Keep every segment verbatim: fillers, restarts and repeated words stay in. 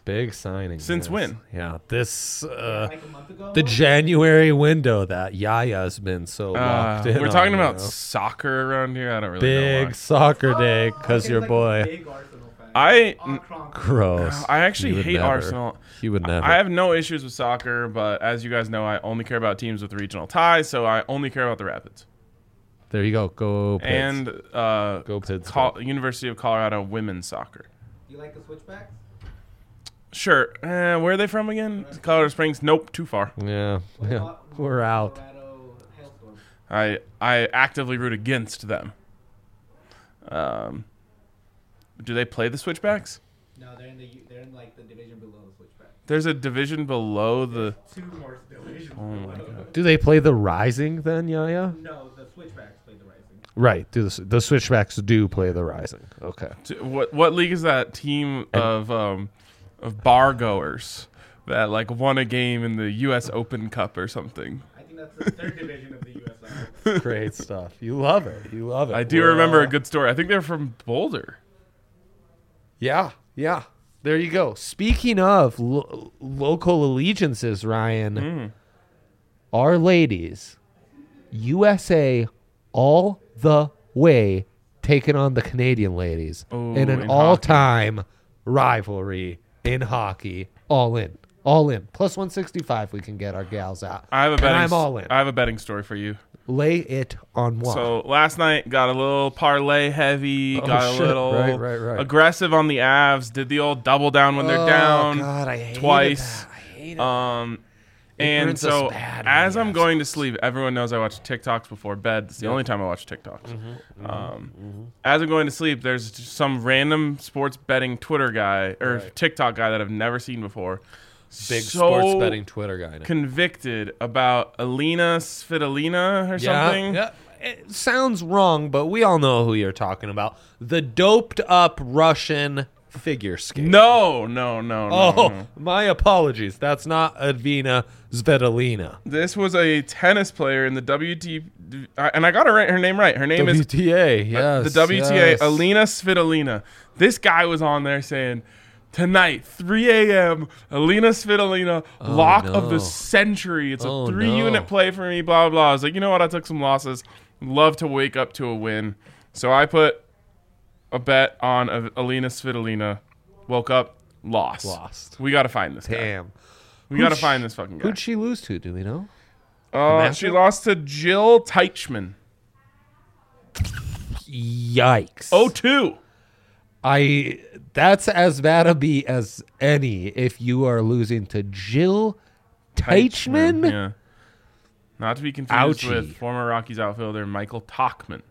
Big signing. Since yes. when? Yeah, this uh, Like a month ago? the January window that Yaya's been so locked Uh, in. we're talking on, about you know. soccer around here. I don't really know Big why. soccer day because Okay, your like a boy. big Arsenal fan. I- Ah, Kronk. Gross. I actually He would hate never. Arsenal. He would never. I have no issues with soccer, but as you guys know, I only care about teams with regional ties, so I only care about the Rapids. There you go. Go Pids. And uh, Go Pids. Col- University of Colorado women's soccer. Do you like the switchbacks? Sure. Uh, where are they from again? Colorado Springs? Nope, too far. yeah. What yeah. about We're out. Colorado Hailstorm? I I actively root against them. Um, do they play the Switchbacks? No, they're in the they're in like the division below the switchbacks. There's a division below the. Two more divisions Oh my below. God. Do they play the Rising then, Yaya? No, the switchbacks play the Rising. Right. Do the, the Switchbacks do play the Rising? Okay. t- What what league is that team of um of bar goers that like won a game in the U S Open Cup or something? I think that's the third division of the U S L. Great stuff. You love it. You love it. I do We're, remember uh, a good story. I think they're from Boulder. Yeah. Yeah. There you go. Speaking of lo- local allegiances, Ryan, Mm. our ladies, U S A all the way taking on the Canadian ladies Oh, in an in all-time rivalry in hockey. All in. All in. Plus one sixty-five we can get our gals out. I have a And betting. I'm all in. I have a betting story for you. Lay it on moi. So last night got a little parlay heavy, Oh, got a shit. little Right, right, right. aggressive on the Avs, did the old double down when they're Oh, down God, I hated twice. that. I hated Um, It and burns us so bad when as the I'm Avs going to lose. sleep, everyone knows I watch TikToks before bed. It's the Yep. only time I watch TikToks. Mm-hmm, um, As I'm going to sleep, there's just some random sports betting Twitter guy or Right. TikTok guy that I've never seen before. Big So sports betting Twitter guy. now. Convicted about Alina Svitolina or Yeah, something. yeah. It sounds wrong, but we all know who you're talking about. The doped up Russian figure skater. No, no, no, no. Oh, no. my apologies. That's not Advina Svitolina. This was a tennis player in the W T, and I got her, right, her name right. Her name W is T A, yes. the W T A, yes. Alina Svitolina. This guy was on there saying, tonight, three a.m., Alina Svitolina, Oh, lock no. of the century. It's Oh, a three-unit no. play for me, blah, blah, blah. I was like, you know what? I took some losses. Love to wake up to a win. So I put a bet on a- Alina Svitolina. Woke up, lost. Lost. We got to find this guy. Damn. We Who'd got to she- find this fucking guy. Who'd she lose to? Do we know? Uh, matchup? she lost to Jill Teichman. Yikes. Oh, two. I. That's as bad a beat as any if you are losing to Jill Teichman. Yeah. Not to be confused Ouchie. with former Rockies outfielder Michael Talkman.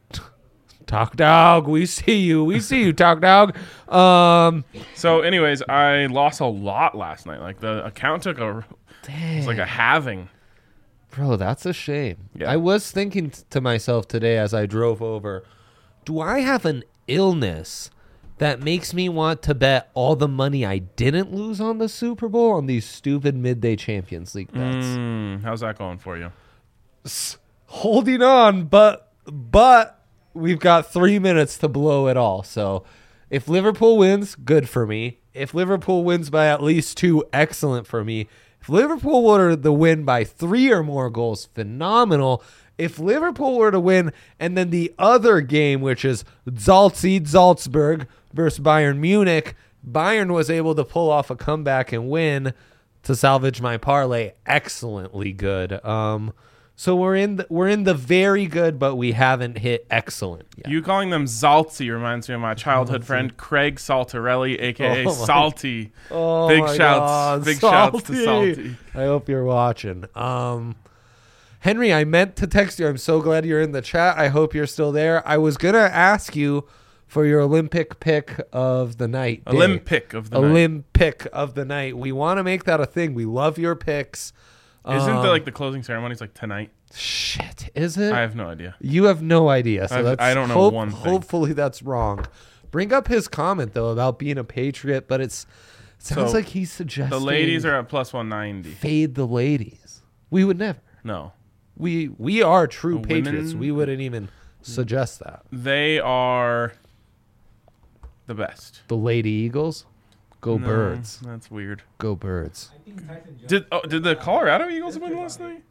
Talk dog, we see you. We see you, talk dog. Um, So, anyways, I lost a lot last night. Like the account took a, dang. it's like a halving. Bro, that's a shame. Yeah. I was thinking t- to myself today as I drove over, do I have an illness that makes me want to bet all the money I didn't lose on the Super Bowl on these stupid midday Champions League bets? Mm, how's that going for you? S- Holding on, but but we've got three minutes to blow it all. So if Liverpool wins, good for me. If Liverpool wins by at least two, excellent for me. If Liverpool were to win by three or more goals, phenomenal. If Liverpool were to win, and then the other game, which is Salzburg, Salzburg versus Bayern Munich, Bayern was able to pull off a comeback and win to salvage my parlay. Excellently good. Um, so we're in the, we're in the very good, but we haven't hit excellent yet. You calling them Zaltzi reminds me of my childhood friend Craig Saltarelli, aka Oh my- Salty. Oh Big my shouts, God, big shouts to Salty. Salty. I hope you're watching. Um, Henry, I meant to text you. I'm so glad you're in the chat. I hope you're still there. I was gonna ask you for your Olympic pick of the night. day. Olympic of the night. Olympic of the night. We want to make that a thing. We love your picks. Isn't Um, the like the closing ceremonies like tonight? shit? Is it? I have no idea. You have no idea. So I've- that's I don't know hope- one thing. Hopefully that's wrong. Bring up his comment though about being a patriot, but it's it sounds So, like he's suggesting The ladies are at plus one ninety. fade the ladies. We would never. No. We we are true The patriots. women- We wouldn't even suggest that. They are the best. The Lady Eagles. Go No, Birds. That's weird. Go Birds. I think Tyson Jones. Did oh, did the Colorado Eagles win last night?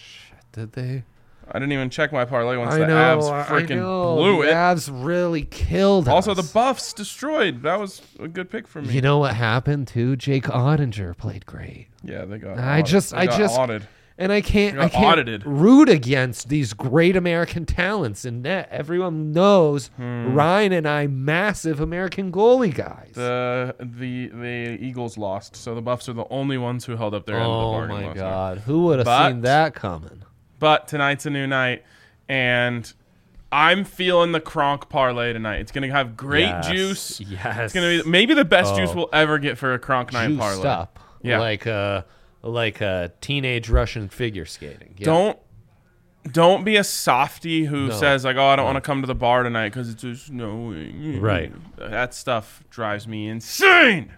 Did they? I didn't even check my parlay once I the know. Avs I freaking know. blew the it. Avs really killed Also, us. the Buffs destroyed. That was a good pick for me. You know what happened too? Jake Ottinger played great. yeah, they got. I audit- just- they I got just- audited. And I can't, They I got can't audited. root against these great American talents in net. Everyone knows Hmm. Ryan and I, massive American goalie guys. The the the Eagles lost, so the Buffs are the only ones who held up their end of the oh bargain. my last night. God, who would have But- seen that coming? But tonight's a new night, and I'm feeling the Kronk parlay tonight. It's gonna have great Yes, juice. Yes, It's gonna be maybe the best Oh. juice we'll ever get for a Kronk night juiced parlay. up, Yeah. like a like a teenage Russian figure skating. Yeah. Don't don't be a softy who No. says like, "Oh, I don't No. want to come to the bar tonight because it's just snowing." Right. That stuff drives me insane.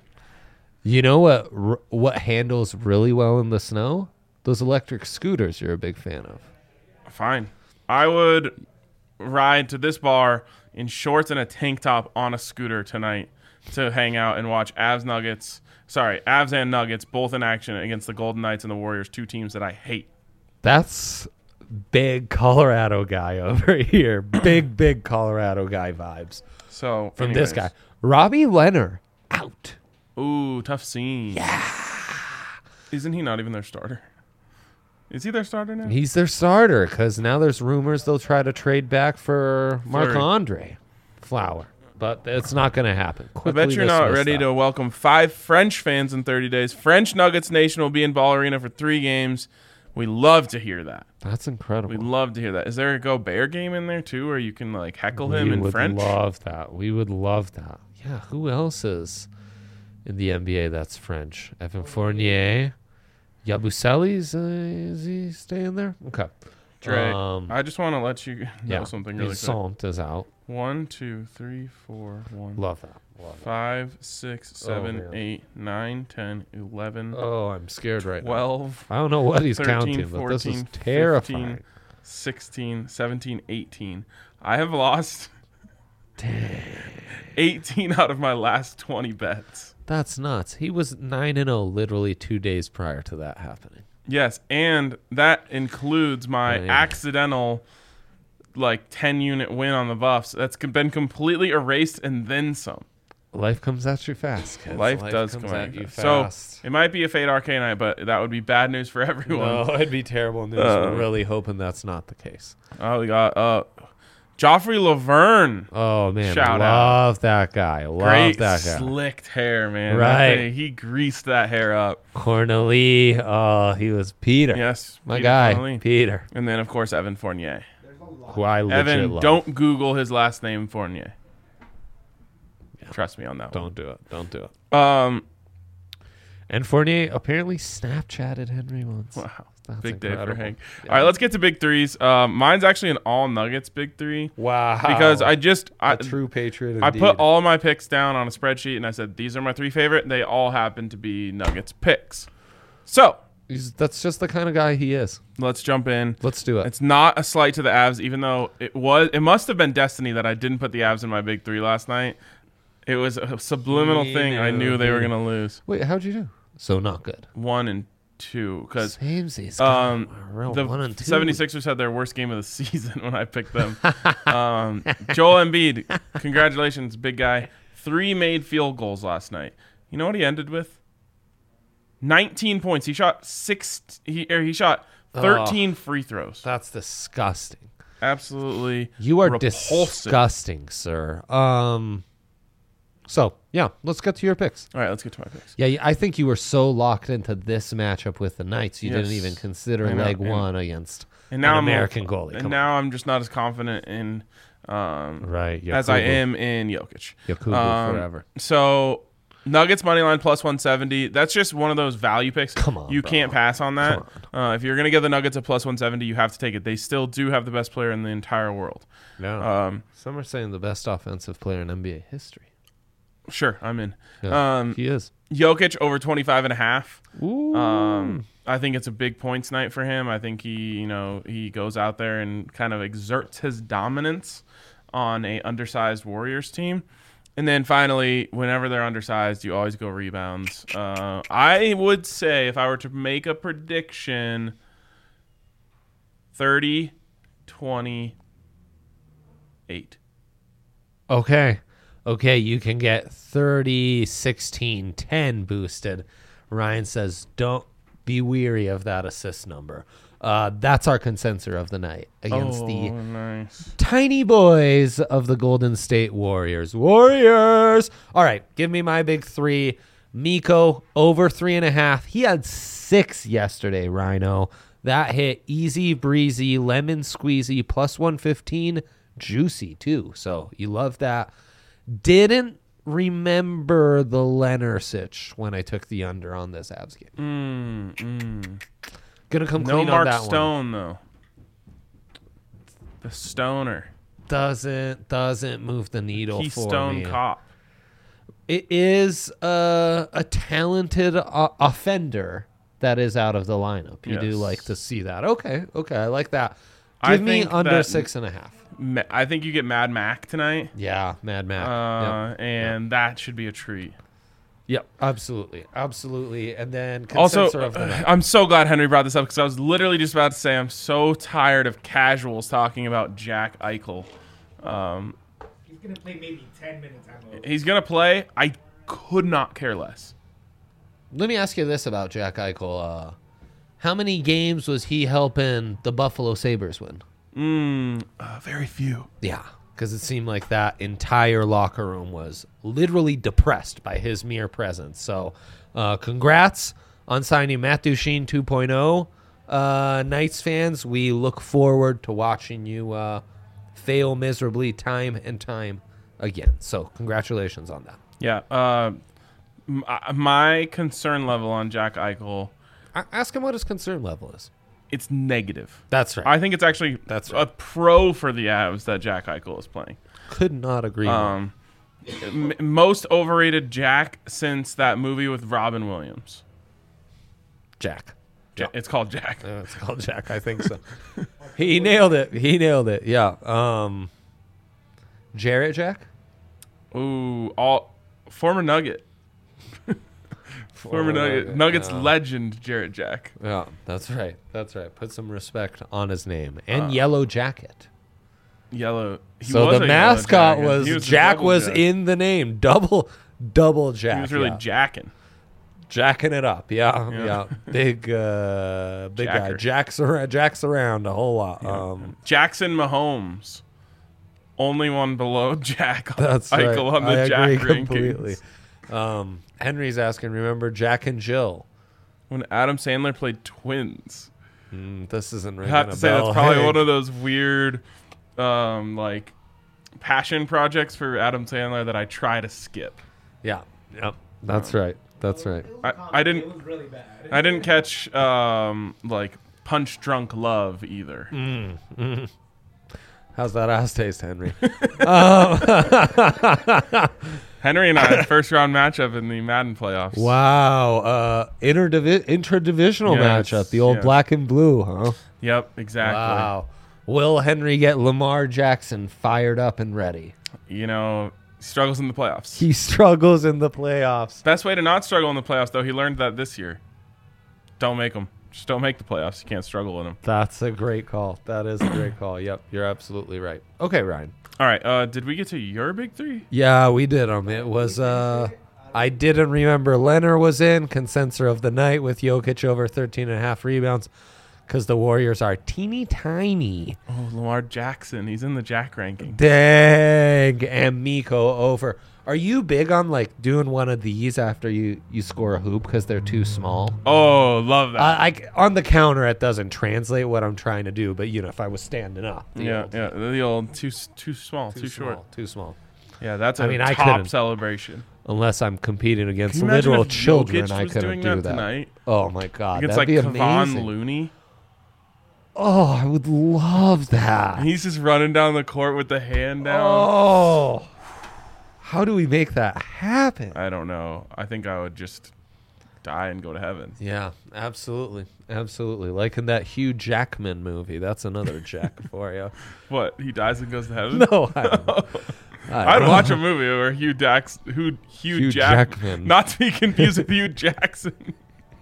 You know what? r- What handles really well in the snow? Those electric scooters. You're a big fan of. Fine. I would ride to this bar in shorts and a tank top on a scooter tonight to hang out and watch Avs Nuggets. Sorry, Avs and Nuggets both in action against the Golden Knights and the Warriors, two teams that I hate. That's big Colorado guy over here. Big, big Colorado guy vibes So from this anyways. guy. Robbie Leonard out. Ooh, tough scene. Yeah. Isn't he not even their starter? Is he their starter now? He's their starter because now there's rumors they'll try to trade back for Marc Fleury. Andre Flower. But it's not going to happen. I Quickly bet you're not dismiss ready that. to welcome five French fans in thirty days. French Nuggets Nation will be in Ball Arena for three games. We love to hear that. That's incredible. We love to hear that. Is there a Gobert game in there too, where you can like heckle we him in would French? love that. We would love that. Yeah, who else is in the N B A that's French? Evan Fournier. Yabusele's, uh, is he staying there? Okay. Dre, Um, I just want to let you know yeah, something really quick. Toussaint is out. One, two, three, four, one, Love that. Love that. five, six, seven, man. eight, nine, ten, eleven, Oh, I'm scared right now. twelve, I don't know what he's thirteen, counting, but this is fourteen, terrifying. fifteen, sixteen, seventeen, eighteen. I have lost eighteen out of my last twenty bets. That's nuts. He was nine and oh literally two days prior to that happening. Yes, and that includes my Oh, yeah. accidental like ten unit win on the Buffs. That's co- been completely erased and then some. Life comes at you fast, kids. Life, does comes come at at you you fast. So it might be a Fade Arcane night, but that would be bad news for everyone. No, it'd be terrible news. Uh, We're really hoping that's not the case. Oh, we got uh, Joffrey Laverne. Oh man, Shout love that guy. Love Great that guy. slicked hair, man. Right. That thing, he greased that hair up. Cornelie. Oh, he was Peter. Yes, my Peter guy, Connolly. Peter. And then of course Evan Fournier. There's a lot. Who I legit Evan, love. don't Google his last name, Fournier. Trust me on that don't do it. Don't do it. one. Um, And Fournier apparently Snapchatted Henry once. wow. That's Big day for incredible. Hank. Yeah. All right, let's get to big threes. Um, mine's actually an all Nuggets big three Wow. because I just I, a true patriot. I Indeed. put all my picks down on a spreadsheet and I said these are my three favorite. They all happen to be Nuggets picks. So He's, that's just the kind of guy he is. let's jump in. Let's do it. It's not a slight to the Avs, even though it was. It must have been destiny that I didn't put the Avs in my big three last night. It was a subliminal He thing. I knew. knew they were He- gonna lose Wait, how'd you do? So not good. one and two because Samesies. um, real the one and two. 76ers had their worst game of the season when I picked them. um, Joel Embiid, congratulations, big guy. Three made field goals last night. You know what he ended with? nineteen points. He shot six. He or he shot thirteen free throws. That's disgusting. Absolutely, You are repulsive. disgusting, sir. Um. So yeah, let's get to your picks. All right, let's get to my picks. Yeah, I think you were so locked into this matchup with the Knights, you Yes. didn't even consider I know, leg and- one against And now an I'm American goalie. And Come now I'm just not as confident in, um, on. Right, as I Yakubu. am in Jokic. Yakubu Um, forever. So Nuggets money line plus one seventy. That's just one of those value picks. Come on, you bro. can't pass on that. Come Uh, if you're gonna give the Nuggets a plus one seventy, you have to take it. They still do have the best player in the entire world. No. Um, Some are saying the best offensive player in N B A history. sure, I'm in. Yeah, Um, he is. Jokic over twenty-five and a half. Ooh. Um, I think it's a big points night for him. I think he, you know, he goes out there and kind of exerts his dominance on a undersized Warriors team. And then finally, whenever they're undersized, you always go rebounds. Uh, I would say if I were to make a prediction, thirty twenty-eight. Okay. Okay, you can get thirty, sixteen, ten boosted. Ryan says, don't be weary of that assist number. Uh, that's our consensus of the night against oh, the nice. tiny boys of the Golden State Warriors. Warriors! All right, give me my big three. Miko, over three and a half. He had six yesterday, Rhino. That hit easy breezy, lemon squeezy, plus one fifteen, juicy too. So you love that. Didn't remember the Leonard-sitch when I took the under on this Avs game. Mm, mm. Gonna come No clean Mark on that Stone, one. though. The Stoner. Doesn't doesn't move the needle for Keystone me. Cop. It is a, a talented uh, offender that is out of the lineup. You do Yes. like to see that. Okay, okay, I like that. I Give me think under that- six and a half. Ma- I think you get Mad Mac tonight. Yeah, Mad Mac. Uh, yep. and that should be a treat. Yep, absolutely, absolutely. And then Also, consensus of the night. I'm so glad Henry brought this up because I was literally just about to say I'm so tired of casuals talking about Jack Eichel. Um, He's gonna play maybe ten minutes at most. he's gonna play. I could not care less. Let me ask you this about Jack Eichel. Uh, how many games was he helping the Buffalo Sabres win? Mm, uh, very few. Yeah, because it seemed like that entire locker room was literally depressed by his mere presence. So, uh, congrats on signing Matt Duchene two point oh. Uh, Knights fans, we look forward to watching you uh, fail miserably time and time again. So, congratulations on that. Yeah. Uh, m- uh, my concern level on Jack Eichel, A- ask him what his concern level is. it's negative. That's right. I think it's actually That's a right. pro for the Avs that Jack Eichel is playing. Could not agree more. Um, m- most overrated Jack since that movie with Robin Williams. Jack. Ja- It's called Jack. Uh, it's called Jack. I think so. He nailed it. He nailed it. Yeah. Um, Jarrett Jack? Ooh, all former Nugget. Former Nugget. Nugget, Nuggets yeah. legend Jarrett Jack. Yeah, that's right. That's right. Put some respect on his name. And Uh, Yellow Jacket. Yellow. He So was the a yellow mascot jacket. was, He a Jack double was jack. in the name. Double double Jack. He was really yeah. jacking. jacking it up. Yeah, Yeah. yeah. Big uh big guy. Jacker. Jacks around jacks around a whole lot. Um Jackson Mahomes. Only one below Jack That's Eichel right. on the I Jack agree rankings. completely. Um, Henry's asking, remember Jack and Jill? When Adam Sandler played Twins. Mm, this isn't I ringing have a to say bell. that's probably Hey. one of those weird um like passion projects for Adam Sandler that I try to skip. Yeah, yep. That's right. That's right. It was I- a comedy. I didn't- It was really bad. I didn't catch um like Punch Drunk Love either. Mm, mm. How's that ass taste, Henry? um, Henry and I first round matchup in the Madden playoffs. wow. Uh, interdivi- interdivisional Yes, matchup. The old yes. black and blue, huh? Yep, exactly. Wow. Will Henry get Lamar Jackson fired up and ready? You know, struggles in the playoffs. He struggles in the playoffs. Best way to not struggle in the playoffs, though, he learned that this year. Don't make them. Just don't make the playoffs. You can't struggle in them. That's a great call. That is a great call. Yep, you're absolutely right. Okay, Ryan. All right. Uh, did we get to your big three? Yeah, we did them. It was uh I didn't remember Leonard was in consensus of the night with Jokic over thirteen and a half rebounds because the Warriors are teeny tiny. Oh, Lamar Jackson. He's in the Jack ranking. Dang. And Miko over. Are you big on like doing one of these after you, you score a hoop because they're too small? Oh, love that. I, I on the counter it doesn't translate what I'm trying to do, but you know if I was standing up, the yeah, old- yeah. The old too s- too small, too, too, short. small, too small. Yeah, that's a I mean, I top couldn't- celebration. Unless I'm competing against Can you imagine literal if children, Jokic I was couldn't doing do that that. tonight? Oh my god, Against that'd like be Kevon amazing. Looney. Oh, I would love that. And he's just running down the court with the hand down. Oh, how do we make that happen? I don't know. I think I would just die and go to heaven. Yeah, absolutely, absolutely. Like in that Hugh Jackman movie. That's another Jack for you. What? He dies and goes to heaven? No, I don't know. I'd don't watch know. a movie where Hugh Dax, Hugh, Hugh, Hugh Jack- Jackman. not to be confused with Hugh Jackson.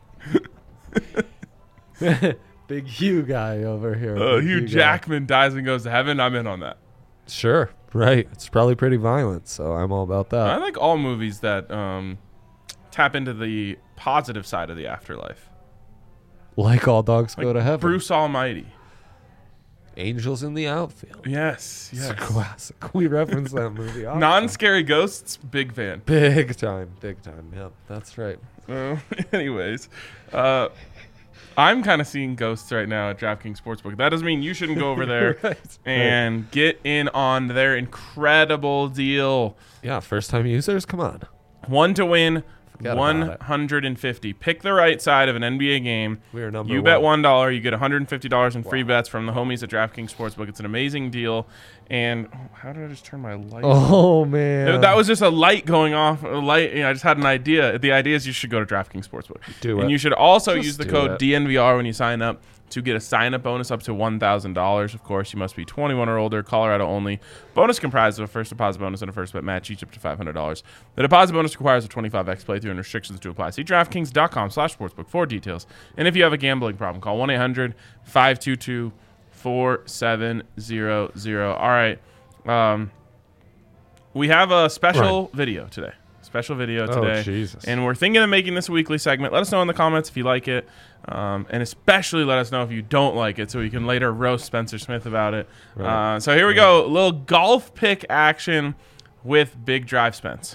Big Hugh guy over here. Uh, Big Hugh guy. Jackman dies and goes to heaven. I'm in on that. Sure, right. It's probably pretty violent, so I'm all about I that. like all movies that um, tap into the positive side of the afterlife. Like All Dogs Go Like to Heaven. Bruce Almighty. Angels in the Outfield. Yes, It's yes. a classic. We reference that movie often. Non-scary ghosts, big fan. Big time, big time. Yep, that's right. Uh, anyways, uh, I'm kind of seeing ghosts right now at DraftKings Sportsbook. That doesn't mean you shouldn't go over there Right, and get in on their incredible deal. Yeah, first time users, come on. One to win, Forgot about one it. hundred fifty. Pick the right side of an N B A game. We are number You one. bet one dollar, you get one hundred fifty dollars in free bets from the homies at DraftKings Sportsbook. It's an amazing deal. And oh, how did I just turn my light? Oh, man. That was just a light going off. A light. You know, I just had an idea. The idea is you should go to DraftKings Sportsbook. Do And it. you should also Just use the do code it. D N V R when you sign up to get a sign-up bonus up to one thousand dollars. Of course, you must be twenty-one or older, Colorado only. Bonus comprised of a first deposit bonus and a first bet match, each up to five hundred dollars. The deposit bonus requires a twenty-five x playthrough and restrictions to apply. See DraftKings.com slash sportsbook for details. And if you have a gambling problem, call one eight hundred five two two four seven zero zero. All right. Um, we have a special Right. video today. Special video Oh, today. Jesus. And we're thinking of making this a weekly segment. Let us know in the comments if you like it. Um, and especially let us know if you don't like it so we can later roast Spencer Smith about it. Right. Uh, so here we go. A little golf pick action with Big Drive Spence.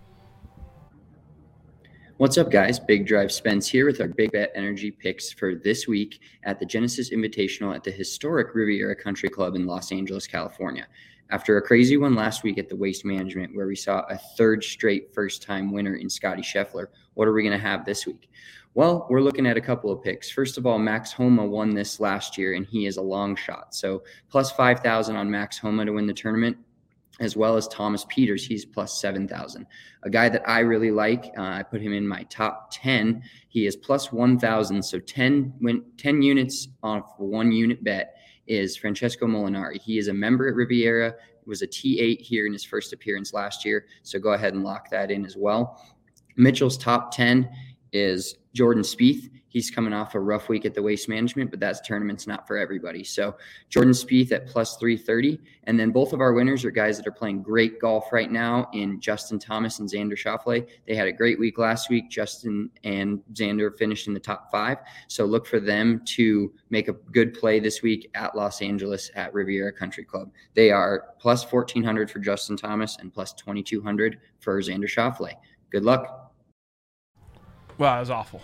What's up, guys? Big Drive Spence here with our Big Bet Energy picks for this week at the Genesis Invitational at the historic Riviera Country Club in Los Angeles, California. After a crazy one last week at the Waste Management, where we saw a third straight first-time winner in Scotty Scheffler, what are we going to have this week? Well, we're looking at a couple of picks. First of all, Max Homa won this last year, and he is a long shot. So plus five thousand on Max Homa to win the tournament, as well as Thomas Peters. He's plus seven thousand. A guy that I really like, uh, I put him in my top ten. He is plus one thousand, so ten, win, ten units off one unit bet is Francesco Molinari. He is a member at Riviera, was a T eight here in his first appearance last year, so go ahead and lock that in as well. Mitchell's top ten is Jordan Spieth. He's coming off a rough week at the Waste Management, but that tournament's not for everybody. So Jordan Spieth at plus three thirty. And then both of our winners are guys that are playing great golf right now in Justin Thomas and Xander Schauffele. They had a great week last week. Justin and Xander finished in the top five. So look for them to make a good play this week at Los Angeles at Riviera Country Club. They are plus fourteen hundred for Justin Thomas and plus twenty-two hundred for Xander Schauffele. Good luck. Wow, that was awful.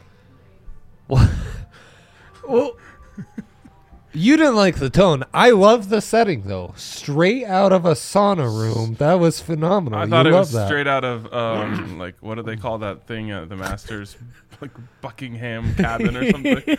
Well, you didn't like the tone. I love the setting, though. Straight out of a sauna room. That was phenomenal. I thought you it love was that. straight out of, um, like, what do they call that thing at the Masters? Like Buckingham cabin or something.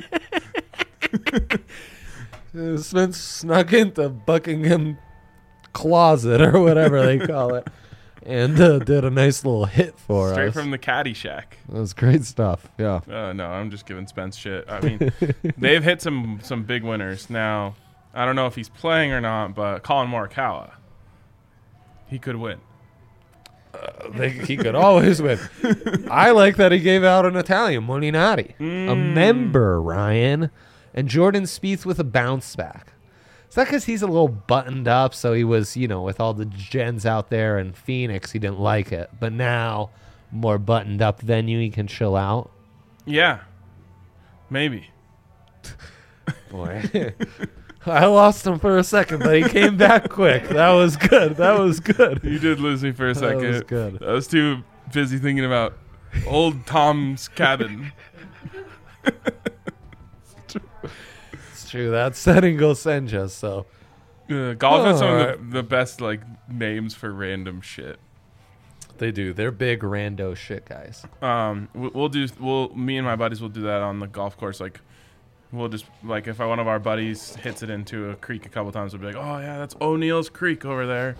Uh, Spence snuck into Buckingham closet or whatever they call it, and uh, did a nice little hit for Straight us. from the caddy shack. That was great stuff. Yeah. Uh, no, I'm just giving Spence shit. I mean, they've hit some some big winners. Now, I don't know if he's playing or not, but Colin Morikawa, he could win. They, he could always win. I like that he gave out an Italian, Molinari. A member, Ryan. And Jordan Spieth with a bounce back. Is that because he's a little buttoned up? So he was, you know, with all the gens out there in Phoenix, he didn't like it. But now, more buttoned up venue, he can chill out. Yeah, maybe. Boy. I lost him for a second, but he came back quick. That was good. That was good. You did lose me for a That second. was good. I was too busy thinking about old Tom's cabin. It's true. That setting will send you, so. Uh, golf has some of Alright. the, the best like names for random shit. They do. They're big rando shit guys. Um, we- we'll do. We'll me and my buddies will do that on the golf course. Like, we'll just like if one of our buddies hits it into a creek a couple times, we'll be like, "Oh yeah, that's O'Neill's Creek over there."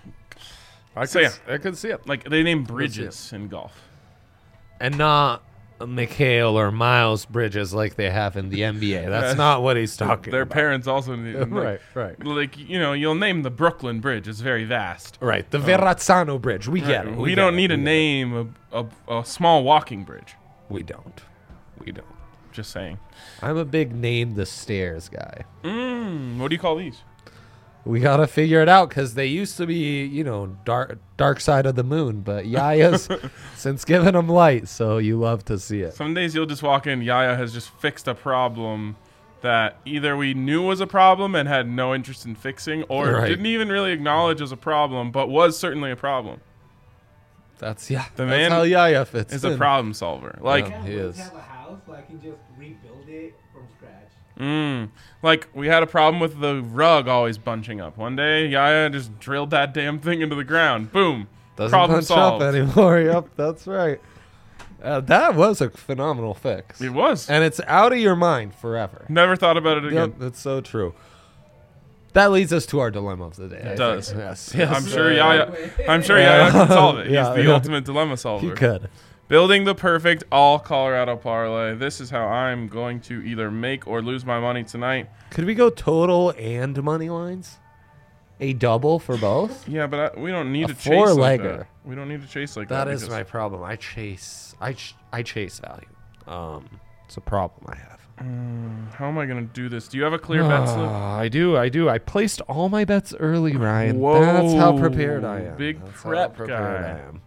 I So, yeah. I could see it. Like they name see it. bridges in golf. And not Mikhail or Miles Bridges like they have in the N B A. That's That's- not what he's talking Their about. parents also need, like, Right, right. Like, you know, you'll name the Brooklyn Bridge. It's very vast. Right, the Verrazzano Bridge. We get Right. it. We, get don't it, need to we get it. name a, a, a small walking bridge. We don't. We don't. Just saying. I'm a big name the stairs guy. Mm, what do you call these? We gotta figure it out because they used to be, you know, dark dark side of the moon, but Yaya's since giving them light, so you love to see it. Some days you'll just walk in, Yaya has just fixed a problem that either we knew was a problem and had no interest in fixing, or Right. didn't even really acknowledge as a problem, but was certainly a problem. That's yeah. The that's man how Yaya fits. It's in. a problem solver. Like, Yeah. I he would is. have a house, so I can just rebuild it from scratch. mm, like we had a problem with the rug always bunching up. One day, Yaya just drilled that damn thing into the ground. Boom. Doesn't problem punch solved. up anymore. Yep, that's right. Uh, that was a phenomenal fix, It was. and it's out of your mind forever. Never thought about it again. Yep, that's so true. That leads us to our dilemma of the day. I It does. think. Yes, yes. I'm sure Uh, Yaya. I'm sure Yeah. Yaya can solve it. He's Yeah, the yeah. ultimate dilemma solver. He could. Building the perfect all Colorado parlay. This is how I'm going to either make or lose my money tonight. Could we go total and money lines? A double for both? Yeah, but I, we don't need A to chase like four-legger. that. We don't need to chase like that. That is because- my problem. I chase. I ch- I chase value. Um, it's a problem I have. How am I going to do this? Do you have a clear bet slip? Ah, I do. I do. I placed all my bets early, Ryan. That's how Whoa, prepared I am. big That's how prep prepared guy. I am.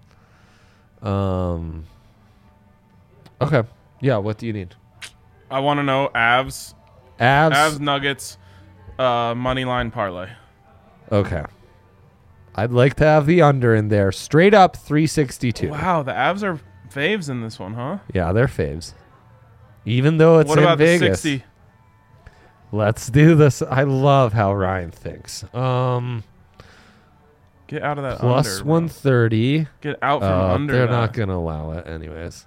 Um. Okay. Yeah. What do you need? I want to know Avs, Avs. Avs Nuggets, uh, money line parlay. Okay. I'd like to have the under in there. Straight up three sixty-two. Wow, the Avs are faves in this one, huh? Yeah, they're faves. Even though it's what in about Vegas. the sixty? Let's do this. I love how Ryan thinks. Um, Get out of that plus under. bro. one thirty. Get out from Uh, under they're that. not going to allow it anyways.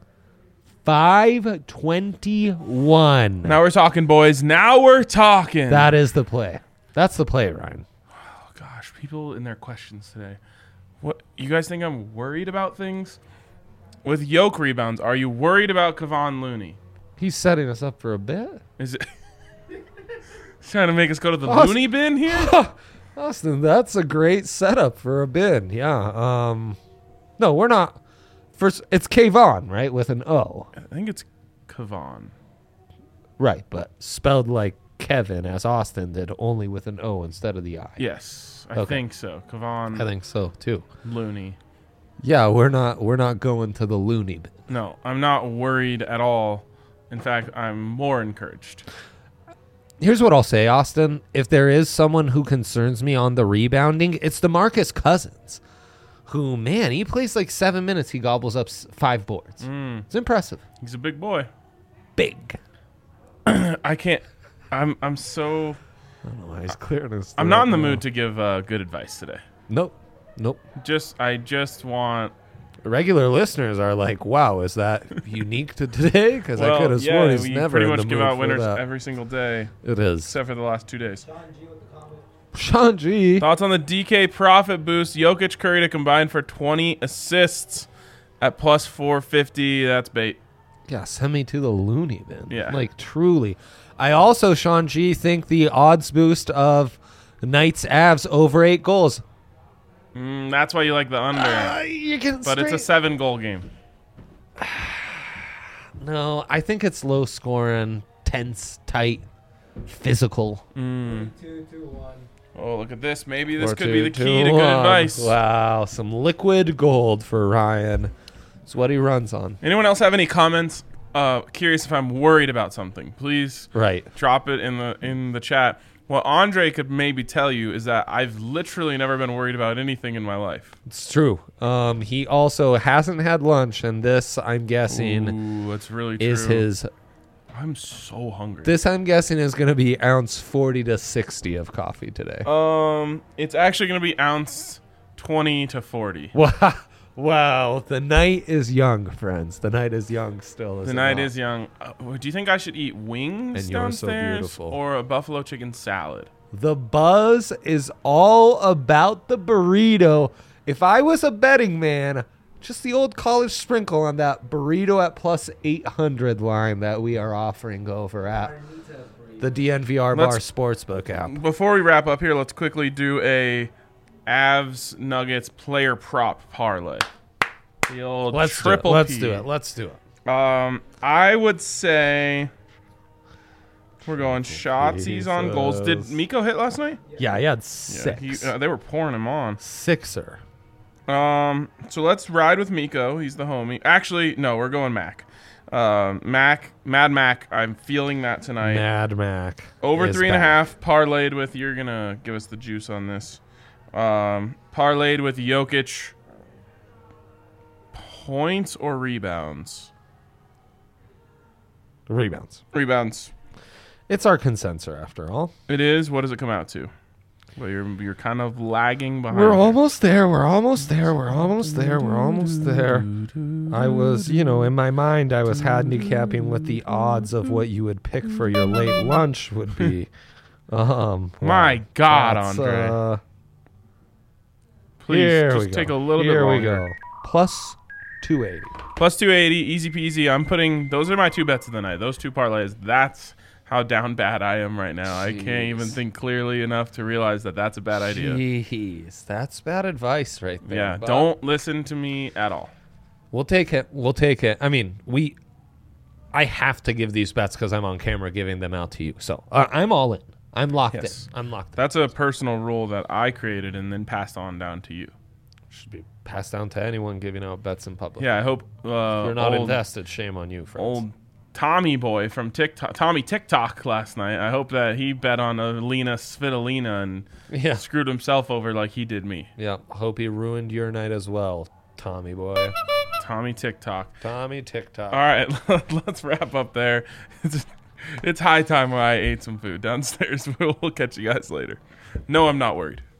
five twenty-one. Now we're talking, boys. Now we're talking. That is the play. That's the play, Ryan. Oh, gosh, people in their questions today. What you guys think I'm worried about things? With yoke rebounds, are you worried about Kevon Looney? He's setting us up for a bit. Is it trying to make us go to the Austin- Looney bin here? Austin, that's a great setup for a bin. Yeah. Um, no, we're not. First, it's Kayvon, right? With an O. I think it's Kevon. Right, but spelled like Kevin, as Austin did, only with an O instead of the I. Yes, I Okay. think so. Kevon I think so too. Looney. Yeah, we're not we're not going to the loony bin. No, I'm not worried at all. In fact, I'm more encouraged. Here's what I'll say, Austin. If there is someone who concerns me on the rebounding, it's DeMarcus Cousins, who, man, he plays like seven minutes. He gobbles up s- five boards. Mm, It's impressive. he's a big boy. Big. I can't. I'm. I'm so. I don't know why he's clearing his I'm not in the throat now. mood to give uh, good advice today. Nope. Nope. Just. I just want. Regular listeners are like, wow, is that unique to today? Because I Well, could have yeah, sworn he's we never pretty in much the give mood out for winners that. every single day, It is. except for the last two days. Sean G with the comment. Sean G. Thoughts on the D K profit boost? Jokic, Curry to combine for twenty assists at plus four fifty. That's bait. Yeah, send me to the loony bin. Yeah. Like, truly. I also, Sean G, think the odds boost of Knights Avs over eight goals. Mm, that's why you like the under. Uh, you can but it's a seven goal game. No, I think it's low scoring, tense, tight, physical. Mm. Two, two, one. Oh, look at this. Maybe this Four, could two, be the two, key to good one. advice. Wow, some liquid gold for Ryan. It's what he runs on. Anyone else have any comments? Uh, curious if I'm worried about something. Please Right. drop it in the in the chat. What Andre could maybe tell you is that I've literally never been worried about anything in my life. It's true. Um, he also hasn't had lunch, and this, I'm guessing, Ooh, that's really true. is his. I'm so hungry. This, I'm guessing, is going to be ounce forty to sixty of coffee today. um, it's actually gonna be ounce twenty to forty. Wow. Wow. The night is young, friends. The night is young still. Is The it night not? is young. Uh, do you think I should eat wings And you're so downstairs beautiful. or a buffalo chicken salad? The buzz is all about the burrito. If I was a betting man, just the old college sprinkle on that burrito at plus eight hundred line that we are offering over at the D N V R Bar Let's- Sportsbook app. Before we wrap up here, let's quickly do a Avs Nuggets player prop parlay. The old Let's do it. triple Let's P. do it. Let's do it. Um, I would say we're going Shotsies on goals. Did Jesus. Miko hit last night? Yeah, he had Yeah, six. he, uh, they were pouring him on. Sixer. Um, so let's ride with Miko. He's the homie. Actually, no, we're going Mac. Um, Mac, Mad Mac. I'm feeling that tonight. Mad Mac. Over is three and a back. half, parlayed with, you're going to give us the juice on this. Um, parlayed with Jokic points or rebounds? Rebounds. Rebounds. It's our consensus after all. It is. What does it come out to? Well, you're, you're kind of lagging behind. We're here. almost there. We're almost there. We're almost there. We're almost there. I was, you know, in my mind, I was handicapping what the odds of what you would pick for your late lunch would be. Um, My God, that's, Andre. Uh, Please, here just we take go. a little here bit we longer. go. Plus two eighty. Plus two eighty, easy peasy. I'm putting, those are my two bets of the night. Those two parlays. That's how down bad I am right now. I can't even Jeez. think clearly enough to realize that that's a bad idea. Jeez, that's bad advice right there. Yeah, but don't listen to me at all. We'll take it. We'll take it. I mean, we. I have to give these bets because I'm on camera giving them out to you. So uh, I'm all in. I'm locked Yes. in. I'm locked in. That's a personal rule that I created and then passed on down to you. Should be passed down to anyone giving out bets in public. Yeah, I hope uh, If you're not old, invested, shame on you, friends. old Tommy boy from TikTok, Tommy TikTok last night. I hope that he bet on Alina Svitolina and Yeah. screwed himself over like he did me. Yeah. Hope he ruined your night as well, Tommy boy. Tommy TikTok. Tommy TikTok. All right, let's wrap up there. It's, it's high time where I ate some food downstairs. We'll catch you guys later. No, I'm not worried.